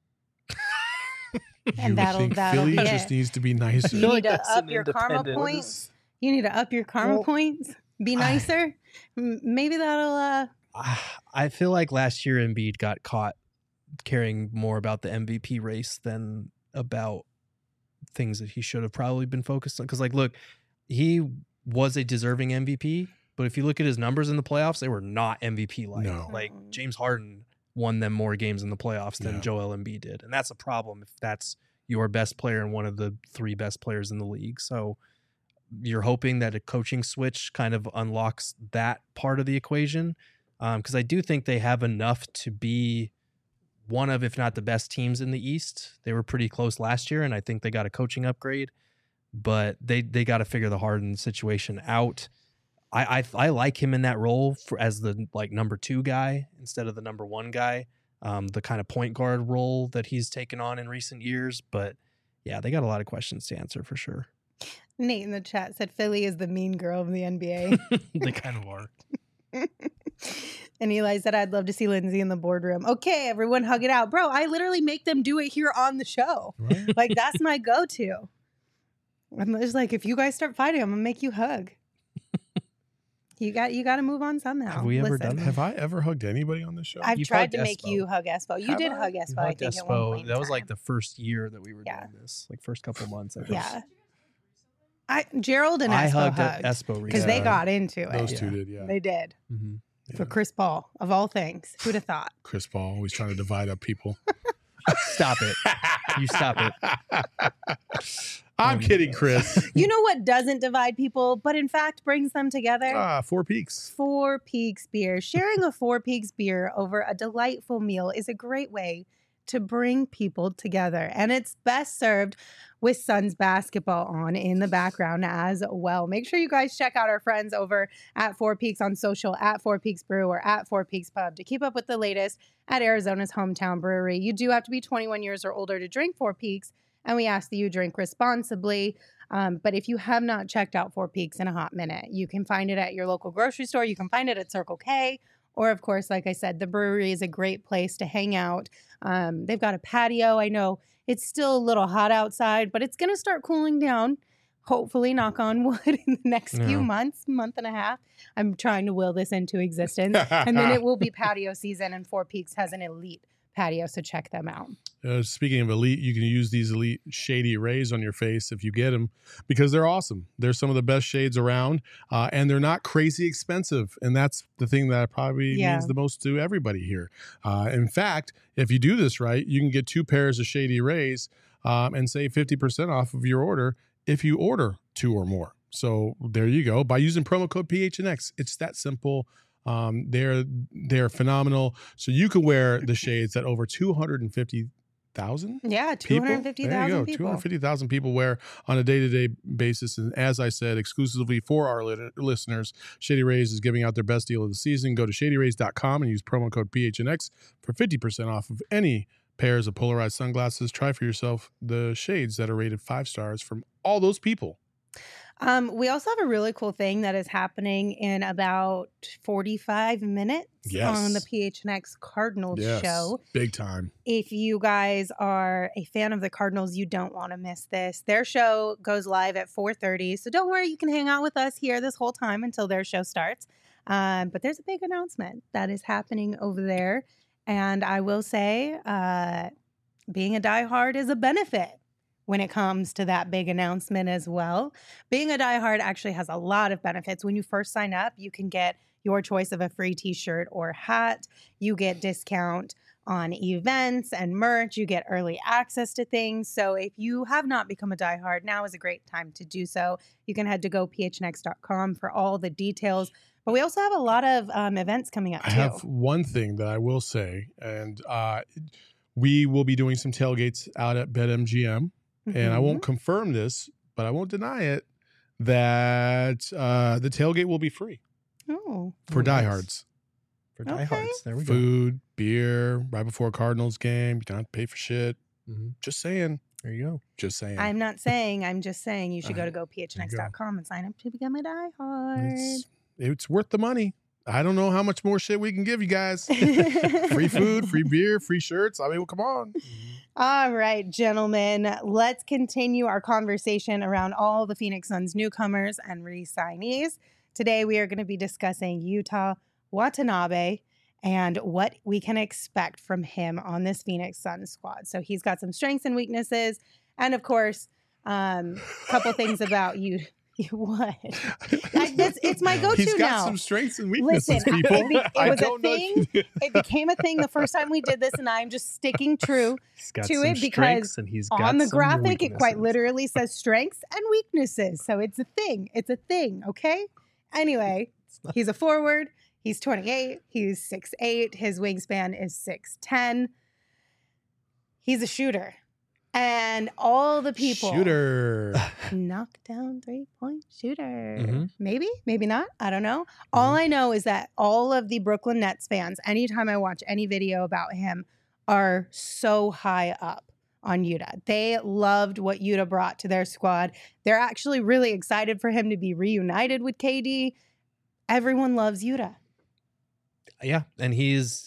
You And that'll Philly be just it. needs to be nicer. You need to up your karma points. You need to up your karma points. Be nicer. Maybe that'll. I feel like last year Embiid got caught caring more about the MVP race than about things that he should have probably been focused on. Because, look, he was a deserving MVP, but if you look at his numbers in the playoffs, they were not MVP-like. No. Like, James Harden won them more games in the playoffs than Joel Embiid did. And that's a problem if that's your best player and one of the 3 best players in the league. So you're hoping that a coaching switch kind of unlocks that part of the equation. Because I do think they have enough to be one of, if not the best teams in the East. They were pretty close last year, and I think they got a coaching upgrade. But they got to figure the Harden situation out. I like him in that role as the number 2 guy instead of the number 1 guy, the kind of point guard role that he's taken on in recent years. But yeah, they got a lot of questions to answer for sure. Nate in the chat said Philly is the mean girl of the NBA. They kind of are. And Eli said, I'd love to see Lindsay in the boardroom. Okay, everyone hug it out. Bro, I literally make them do it here on the show. Right? That's my go-to. I'm just like, if you guys start fighting, I'm going to make you hug. You got to move on somehow. Have we ever done that? Have I ever hugged anybody on this show? I've You've tried hugged to make Espo. you hug Espo. You Have did I? hug Espo, I think, at one point in That was time. the first year that we were Yeah. doing this, first couple months. I think. Yeah. Gerald and I Espo hugged hugged. Espo Because they Yeah. got into it. Those two did, yeah. They did. Mhm. For Chris Paul, of all things. Who'd have thought? Chris Paul always trying to divide up people. Stop it. You stop it. I'm kidding, Chris. You know what doesn't divide people, but in fact brings them together? Four Peaks. Four Peaks beer. Sharing a Four Peaks beer over a delightful meal is a great way to bring people together. And it's best served with Suns basketball on in the background as well. Make sure you guys check out our friends over at Four Peaks on social, at Four Peaks Brew or at Four Peaks Pub to keep up with the latest at Arizona's hometown brewery. You do have to be 21 years or older to drink Four Peaks, and we ask that you drink responsibly. But if you have not checked out Four Peaks in a hot minute, you can find it at your local grocery store. You can find it at Circle K. Or, of course, like I said, the brewery is a great place to hang out. They've got a patio. I know it's still a little hot outside, but it's going to start cooling down. Hopefully, knock on wood, in the next few months, month and a half. I'm trying to will this into existence. And then it will be patio season, and Four Peaks has an elite patio, so check them out. Speaking of elite, you can use these elite shady rays on your face if you get them because they're awesome. They're some of the best shades around, and they're not crazy expensive. And that's the thing that probably means the most to everybody here. In fact, if you do this right, you can get 2 pairs of shady rays and save 50% off of your order if you order 2 or more. So there you go. By using promo code PHNX, it's that simple. They're phenomenal. So you can wear the shades that over 250,000 Yeah, 250,000 people. 250,000 people wear on a day-to-day basis. And as I said, exclusively for our listeners, Shady Rays is giving out their best deal of the season. Go to shadyrays.com and use promo code PHNX for 50% off of any pairs of polarized sunglasses. Try for yourself the shades that are rated 5 stars from all those people. We also have a really cool thing that is happening in about 45 minutes on the PHNX Cardinals show. Big time. If you guys are a fan of the Cardinals, you don't want to miss this. Their show goes live at 4:30, so don't worry, you can hang out with us here this whole time until their show starts. But there's a big announcement that is happening over there. And I will say, being a diehard is a benefit when it comes to that big announcement as well. Being a diehard actually has a lot of benefits. When you first sign up, you can get your choice of a free t-shirt or hat. You get discount on events and merch. You get early access to things. So if you have not become a diehard, now is a great time to do so. You can head to gophnx.com for all the details. But we also have a lot of events coming up too. I have one thing that I will say, and we will be doing some tailgates out at BetMGM. And I won't confirm this, but I won't deny it, that the tailgate will be free for diehards. For diehards. There we go. Food, beer, right before a Cardinals game. You don't have to pay for shit. Just saying. There you go. Just saying. I'm not saying. I'm just saying you should go to gophnx.com and sign up to become a diehard. It's worth the money. I don't know how much more shit we can give you guys. Free food, free beer, free shirts. I mean, well, come on. All right, gentlemen, let's continue our conversation around all the Phoenix Suns newcomers and re-signees. Today, we are going to be discussing Yuta Watanabe and what we can expect from him on this Phoenix Suns squad. So he's got some strengths and weaknesses. And of course, a couple things about you. What? It's my go-to now. He's got some strengths and weaknesses, Listen, people. it was a thing. It became a thing the first time we did this, and I'm just sticking true to it because and he's got on the some graphic, it quite weaknesses. literally says strengths and weaknesses. So it's a thing. It's a thing, okay? Anyway, he's a forward. He's 28. He's 6'8". His wingspan is 6'10". He's a shooter. And all the people knockdown 3-point shooter. Maybe, maybe not. I don't know. All I know is that all of the Brooklyn Nets fans, anytime I watch any video about him, are so high up on Yuta. They loved what Yuta brought to their squad. They're actually really excited for him to be reunited with KD. Everyone loves Yuta. Yeah, and he's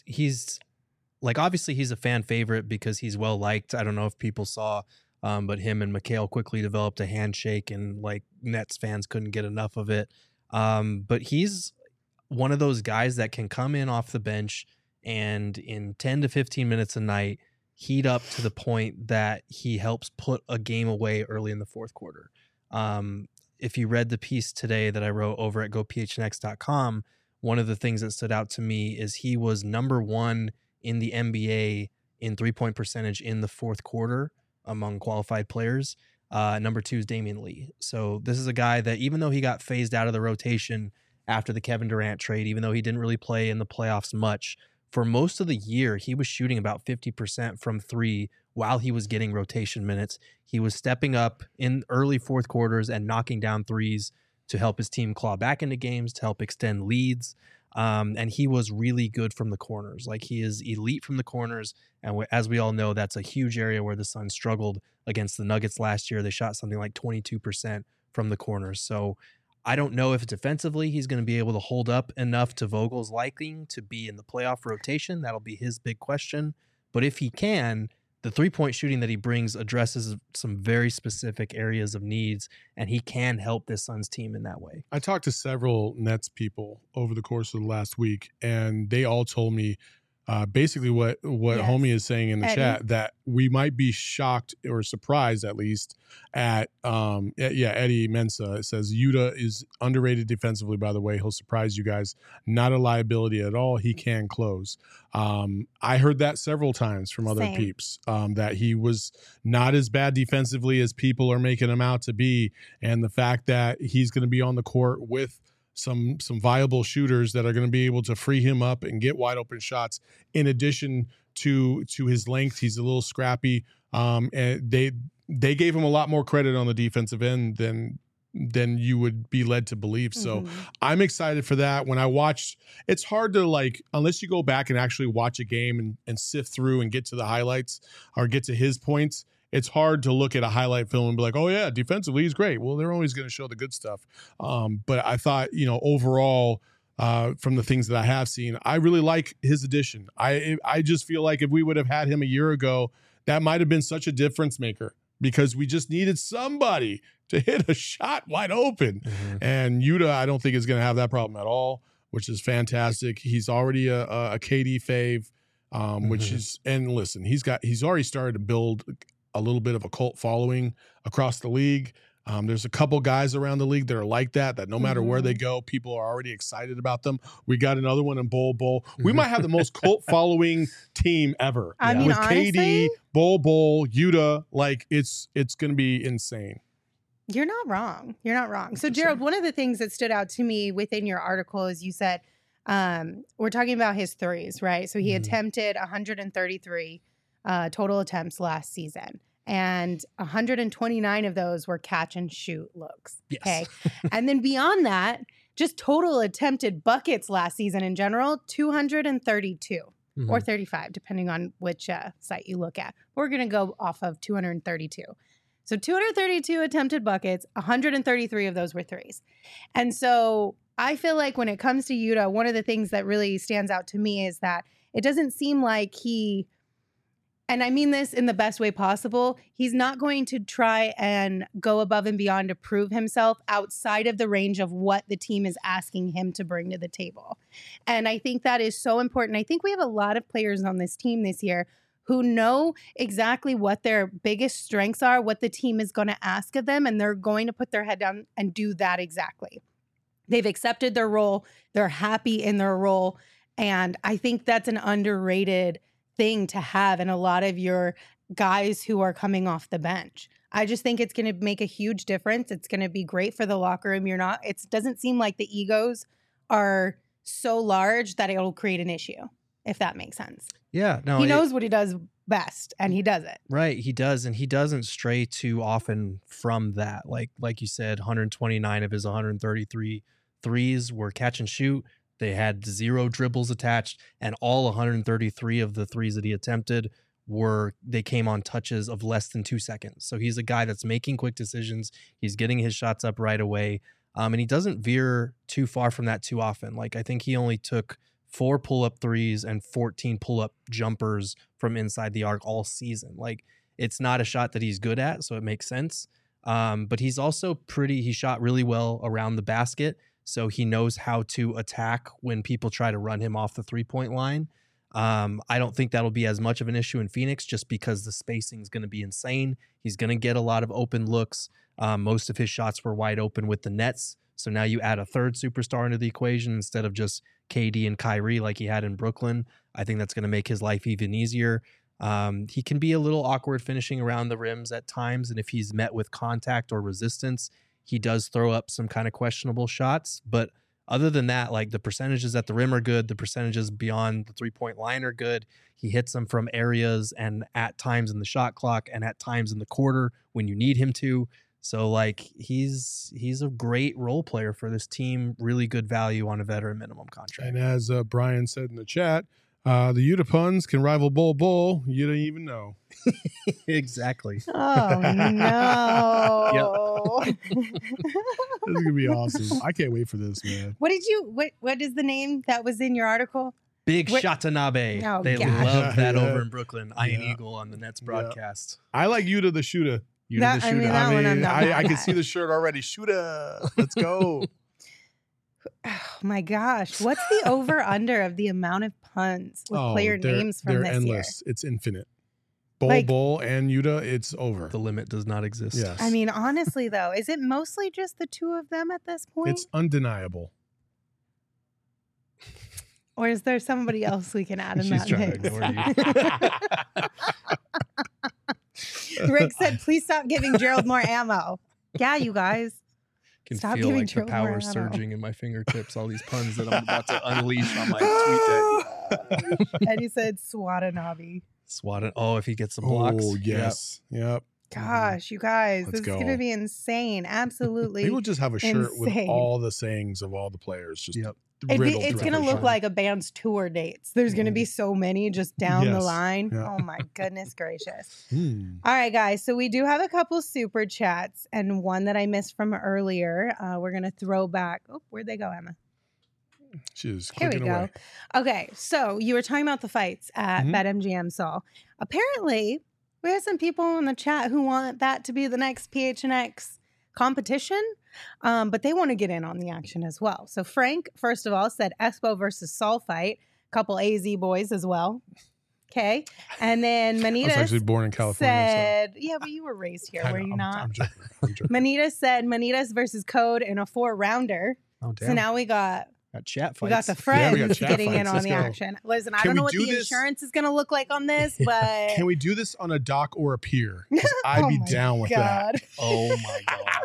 like, obviously he's a fan favorite because he's well liked. I don't know if people saw, but him and Mikal quickly developed a handshake, and like Nets fans couldn't get enough of it. But he's one of those guys that can come in off the bench and in 10 to 15 minutes a night heat up to the point that he helps put a game away early in the fourth quarter. If you read the piece today that I wrote over at gophnx.com, one of the things that stood out to me is he was number 1 in the NBA in 3-point percentage in the fourth quarter among qualified players. Number 2 is Damian Lee. So this is a guy that, even though he got phased out of the rotation after the Kevin Durant trade, even though he didn't really play in the playoffs much, for most of the year, he was shooting about 50% from 3 while he was getting rotation minutes. He was stepping up in early fourth quarters and knocking down threes to help his team claw back into games, to help extend leads. And he was really good from the corners. Like, he is elite from the corners. And as we all know, that's a huge area where the Suns struggled against the Nuggets last year. They shot something like 22% from the corners. So I don't know if defensively he's going to be able to hold up enough to Vogel's liking to be in the playoff rotation. That'll be his big question. But if he can, the three-point shooting that he brings addresses some very specific areas of needs, and he can help this Suns team in that way. I talked to several Nets people over the course of the last week, and they all told me basically what Yes. Homie is saying in the Eddie. chat, that we might be shocked or surprised at least at Eddie Mensah. It says Yuta is underrated defensively, by the way. He'll surprise you guys. Not a liability at all. He can close. I heard that several times from other Same. peeps, that he was not as bad defensively as people are making him out to be. And the fact that he's going to be on the court with some viable shooters that are going to be able to free him up and get wide open shots. In addition to his length, he's a little scrappy. And they gave him a lot more credit on the defensive end than you would be led to believe. So I'm excited for that. When I watched, it's hard to, like, unless you go back and actually watch a game and sift through and get to the highlights or get to his points. It's hard to look at a highlight film and be like, oh, yeah, defensively he's great. Well, they're always going to show the good stuff. But I thought, overall, from the things that I have seen, I really like his addition. I just feel like if we would have had him a year ago, that might have been such a difference maker, because we just needed somebody to hit a shot wide open. And Yuta, I don't think is going to have that problem at all, which is fantastic. He's already a KD fave, which is, and listen, he's already started to build a little bit of a cult following across the league. There's a couple guys around the league that are like that no matter where they go, people are already excited about them. We got another one in Bol. We might have the most cult following team ever. I mean, with honestly, KD, Bol, Yuta. Like, it's going to be insane. You're not wrong. You're not wrong. So, Gerald, one of the things that stood out to me within your article is you said, we're talking about his threes, right? So he attempted 133 total attempts last season, and 129 of those were catch and shoot looks. Yes. Okay. And then beyond that, just total attempted buckets last season in general, 232 or 35, depending on which site you look at. We're going to go off of 232. So 232 attempted buckets, 133 of those were threes. And so I feel like when it comes to Yuta, one of the things that really stands out to me is that it doesn't seem like he, and I mean this in the best way possible, he's not going to try and go above and beyond to prove himself outside of the range of what the team is asking him to bring to the table. And I think that is so important. I think we have a lot of players on this team this year who know exactly what their biggest strengths are, what the team is going to ask of them, and they're going to put their head down and do that exactly. They've accepted their role. They're happy in their role. And I think that's an underrated thing to have in a lot of your guys who are coming off the bench. I just think it's going to make a huge difference. It's going to be great for the locker room. It doesn't seem like the egos are so large that it'll create an issue, if that makes sense. Yeah, no, He knows what he does best, and he does it. Right, he does, and he doesn't stray too often from that. Like you said, 129 of his 133 threes were catch and shoot. They had 0 dribbles attached, and all 133 of the threes that he attempted they came on touches of less than 2 seconds. So he's a guy that's making quick decisions. He's getting his shots up right away, and he doesn't veer too far from that too often. Like, I think he only took 4 pull-up threes and 14 pull-up jumpers from inside the arc all season. Like, it's not a shot that he's good at, so it makes sense. But he's also he shot really well around the basket, so he knows how to attack when people try to run him off the three-point line. I don't think that'll be as much of an issue in Phoenix, just because the spacing is going to be insane. He's going to get a lot of open looks. Most of his shots were wide open with the Nets. So now you add a third superstar into the equation instead of just KD and Kyrie like he had in Brooklyn. I think that's going to make his life even easier. He can be a little awkward finishing around the rims at times, and if he's met with contact or resistance, he does throw up some kind of questionable shots. But other than that, like the percentages at the rim are good. The percentages beyond the 3-point line are good. He hits them from areas and at times in the shot clock and at times in the quarter when you need him to. So like he's a great role player for this team. Really good value on a veteran minimum contract. And as Brian said in the chat, the Utah Puns can rival Bull. You don't even know. Exactly. Oh no! This is gonna be awesome. I can't wait for this, man. What is the name that was in your article? Big What- Shatanabe. Oh, They gosh. love that Yeah. over in Brooklyn. Iron Yeah. Eagle on the Nets broadcast. I like Yuta the shooter. You That- the I mean, shooter. that one I'm not I mad can at. see the shirt already. Shooter. Let's go. Oh my gosh! What's the over under of the amount of puns with player names from they're this endless. It's infinite. Like- Bull, and Yuta, it's over. The limit does not exist. Yes. year? I mean, honestly, though, is it mostly just the two of them at this point, It's undeniable. or is there somebody else we can add in She's that trying mix? to ignore you. Rick said, "Please stop giving Gerald more ammo." Yeah, you guys. Can Stop feel giving like the Gerald more power ammo. surging in my fingertips. All these puns that I'm about to unleash on my tweet deck. And he said, "Swatanabe." Swatting. Oh, if he gets some blocks. Oh, yes. Yep. Gosh, you guys, Let's this is go. going to be insane. Absolutely. Maybe we'll just have a shirt with insane. all the sayings of all the players. Just Yep. riddled It's throughout going to the look shirt. like a band's tour dates. There's going to be so many just down the Yes. line. Yeah. Oh my goodness gracious. Hmm. All right, guys. So we do have a couple super chats and one that I missed from earlier. We're going to throw back. Oh, where'd they go, Emma? She's Here we clicking go. away. Okay, so you were talking about the fights at Mhm. BetMGM, Saul. Apparently, we have some people in the chat who want that to be the next PHNX competition, but they want to get in on the action as well. So Frank, first of all, said Espo versus Saul fight. Couple AZ boys as well. Okay, and then I was actually Manitas born in California. said, "Yeah, but you were raised here, so I were know, you I'm not?" joking. I'm joking. Manitas said Manitas versus Code in a 4-rounder. Oh, damn. So now we got chat fights. we got the Yeah, we got friends chat getting in fights. on Let's the go. action. Listen, I Can don't know we what do the this? insurance is going to look like on this, but Can we do this on a dock or a pier? 'Cause I'd be Oh my down with God. Oh my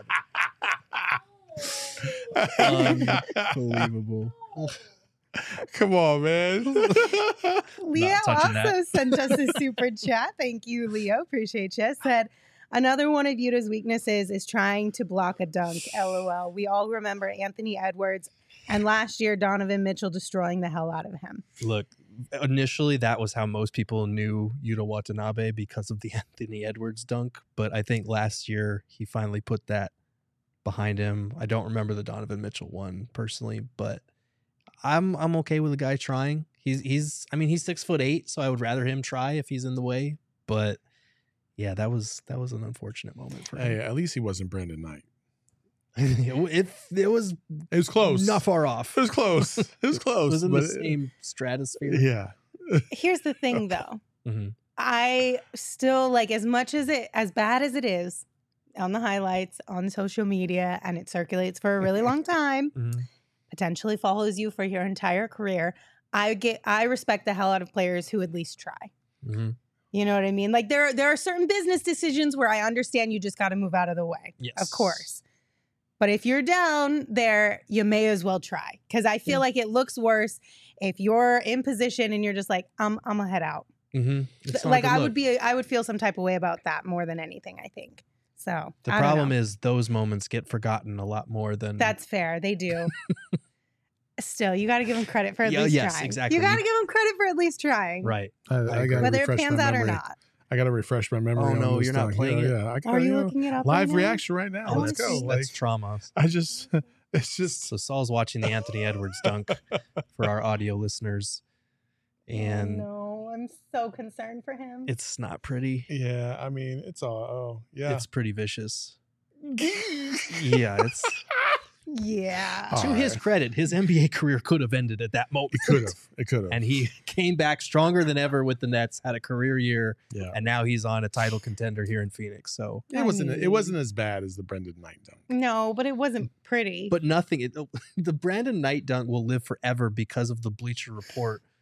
god. that. Unbelievable. Come on, man. Leo touching also that. sent us a super chat. Thank you, Leo. Appreciate you. Said, another one of Yuta's weaknesses is trying to block a dunk. LOL. We all remember Anthony Edwards and last year Donovan Mitchell destroying the hell out of him. Look, initially that was how most people knew Yuta Watanabe because of the Anthony Edwards dunk. But I think last year he finally put that behind him. I don't remember the Donovan Mitchell one personally, but I'm okay with the guy trying. He's 6'8", so I would rather him try if he's in the way. But yeah, that was an unfortunate moment for Hey, him. at least he wasn't Brandon Knight. it was It was close. not far off. It was close. It was It close. was in the but same stratosphere. Yeah. Here's the thing though. Mhm. I still like as bad as it is on the highlights on social media and it circulates for a really long time, Mhm. potentially follows you for your entire career. I respect the hell out of players who at least try. Mhm. You know what I mean? Like there are certain business decisions where I understand you just got to move out of the way. Yes. Of course. But if you're down there, you may as well try. Because I feel like it looks worse if you're in position and you're just like, I'm gonna head out. Mhm. It's not Like a good look. I would feel some type of way about that more than anything, I think. So The I don't problem know. is those moments get forgotten a lot more than That's fair. They do. Still, you got to give them credit for at Yeah, least yes, trying. exactly. You got to give them credit for at least trying. right. I agree. gotta Whether it refresh pans my out or memory. not. I got to refresh my memory. Oh, on no, this you're not dunk. playing it? Yeah, I gotta, Are you looking it up? live right now? reaction right now? I Let's wanna go. see. Like, That's trauma. I just, it's just. So Saul's watching the Anthony Edwards dunk for our audio listeners, and no, I'm so concerned for him. it's not pretty. Yeah, I mean, it's all. Oh, yeah. It's pretty vicious. Yeah, it's Yeah. All to his right. credit, his NBA career could have ended at that moment. It could have. It could have. And he came back stronger than ever with the Nets, had a career year, Yeah. and now he's on a title contender here in Phoenix. So, It wasn't. It wasn't as bad as the Brendan Knight dunk. No, but it wasn't pretty. but nothing. The Brandon Knight dunk will live forever because of the Bleacher Report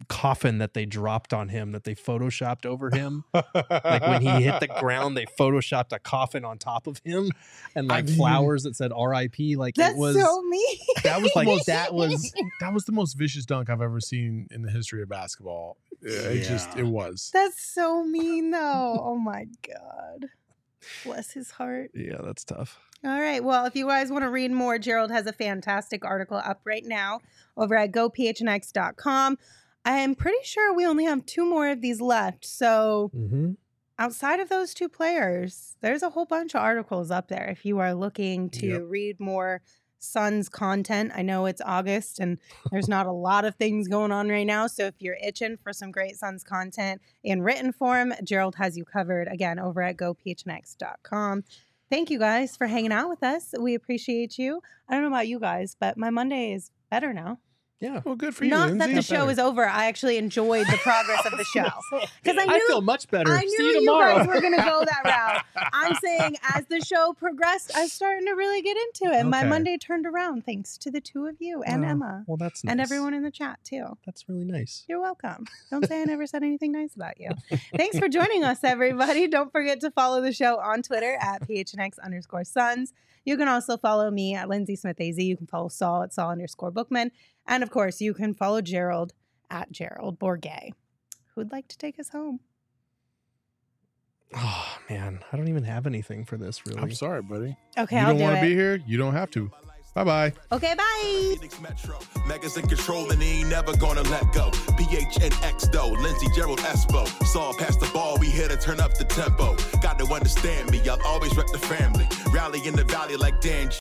coffin that they dropped on him that they photoshopped over him. Like when he hit the ground, they photoshopped a coffin on top of him and like flowers that said R.I.P. Like That's it was so mean. that was like that was the most vicious dunk I've ever seen in the history of basketball. It was. That's so mean, though. Oh my God. Bless his heart. yeah, that's tough. All right. Well, if you guys want to read more, Gerald has a fantastic article up right now over at gophnx.com. I am pretty sure we only have 2 more of these left. So outside of those 2 players, there's a whole bunch of articles up there if you are looking to read more Suns content. I know it's August and there's not a lot of things going on right now. So if you're itching for some great Suns content in written form, Gerald has you covered again over at gophnx.com. Thank you guys for hanging out with us. We appreciate you. I don't know about you guys, but my Monday is better now. Yeah. Well, good for you. Not Lindsay. that the show is over. I actually enjoyed the progress of the show. Because I feel much better. I See knew you you tomorrow. guys were going to go that route. I'm saying as the show progressed, I was starting to really get into it. My Okay. Monday turned around thanks to the 2 of you and Emma. Well, that's nice. And everyone in the chat, too. That's really nice. You're welcome. Don't say I never said anything nice about you. Thanks for joining us, everybody. Don't forget to follow the show on Twitter at PHNX_Suns. You can also follow me at Lindsay Smith AZ. You can follow Saul at Saul_Bookman. And of course, you can follow Gerald at Gerald Bourget. Who'd like to take us home? Oh man, I don't even have anything for this really. I'm sorry, buddy. Okay, You I'll don't do want to it. be here? You don't have to. Bye-bye. Okay, bye. Phoenix Metro. Megas in control and he ain't never gonna let go. PHNX though, Lindsey, Gerald, Espo. Saw past the ball, we here to turn up the tempo. Got to understand me, I'll always rep the family. Rally in the valley like Dan.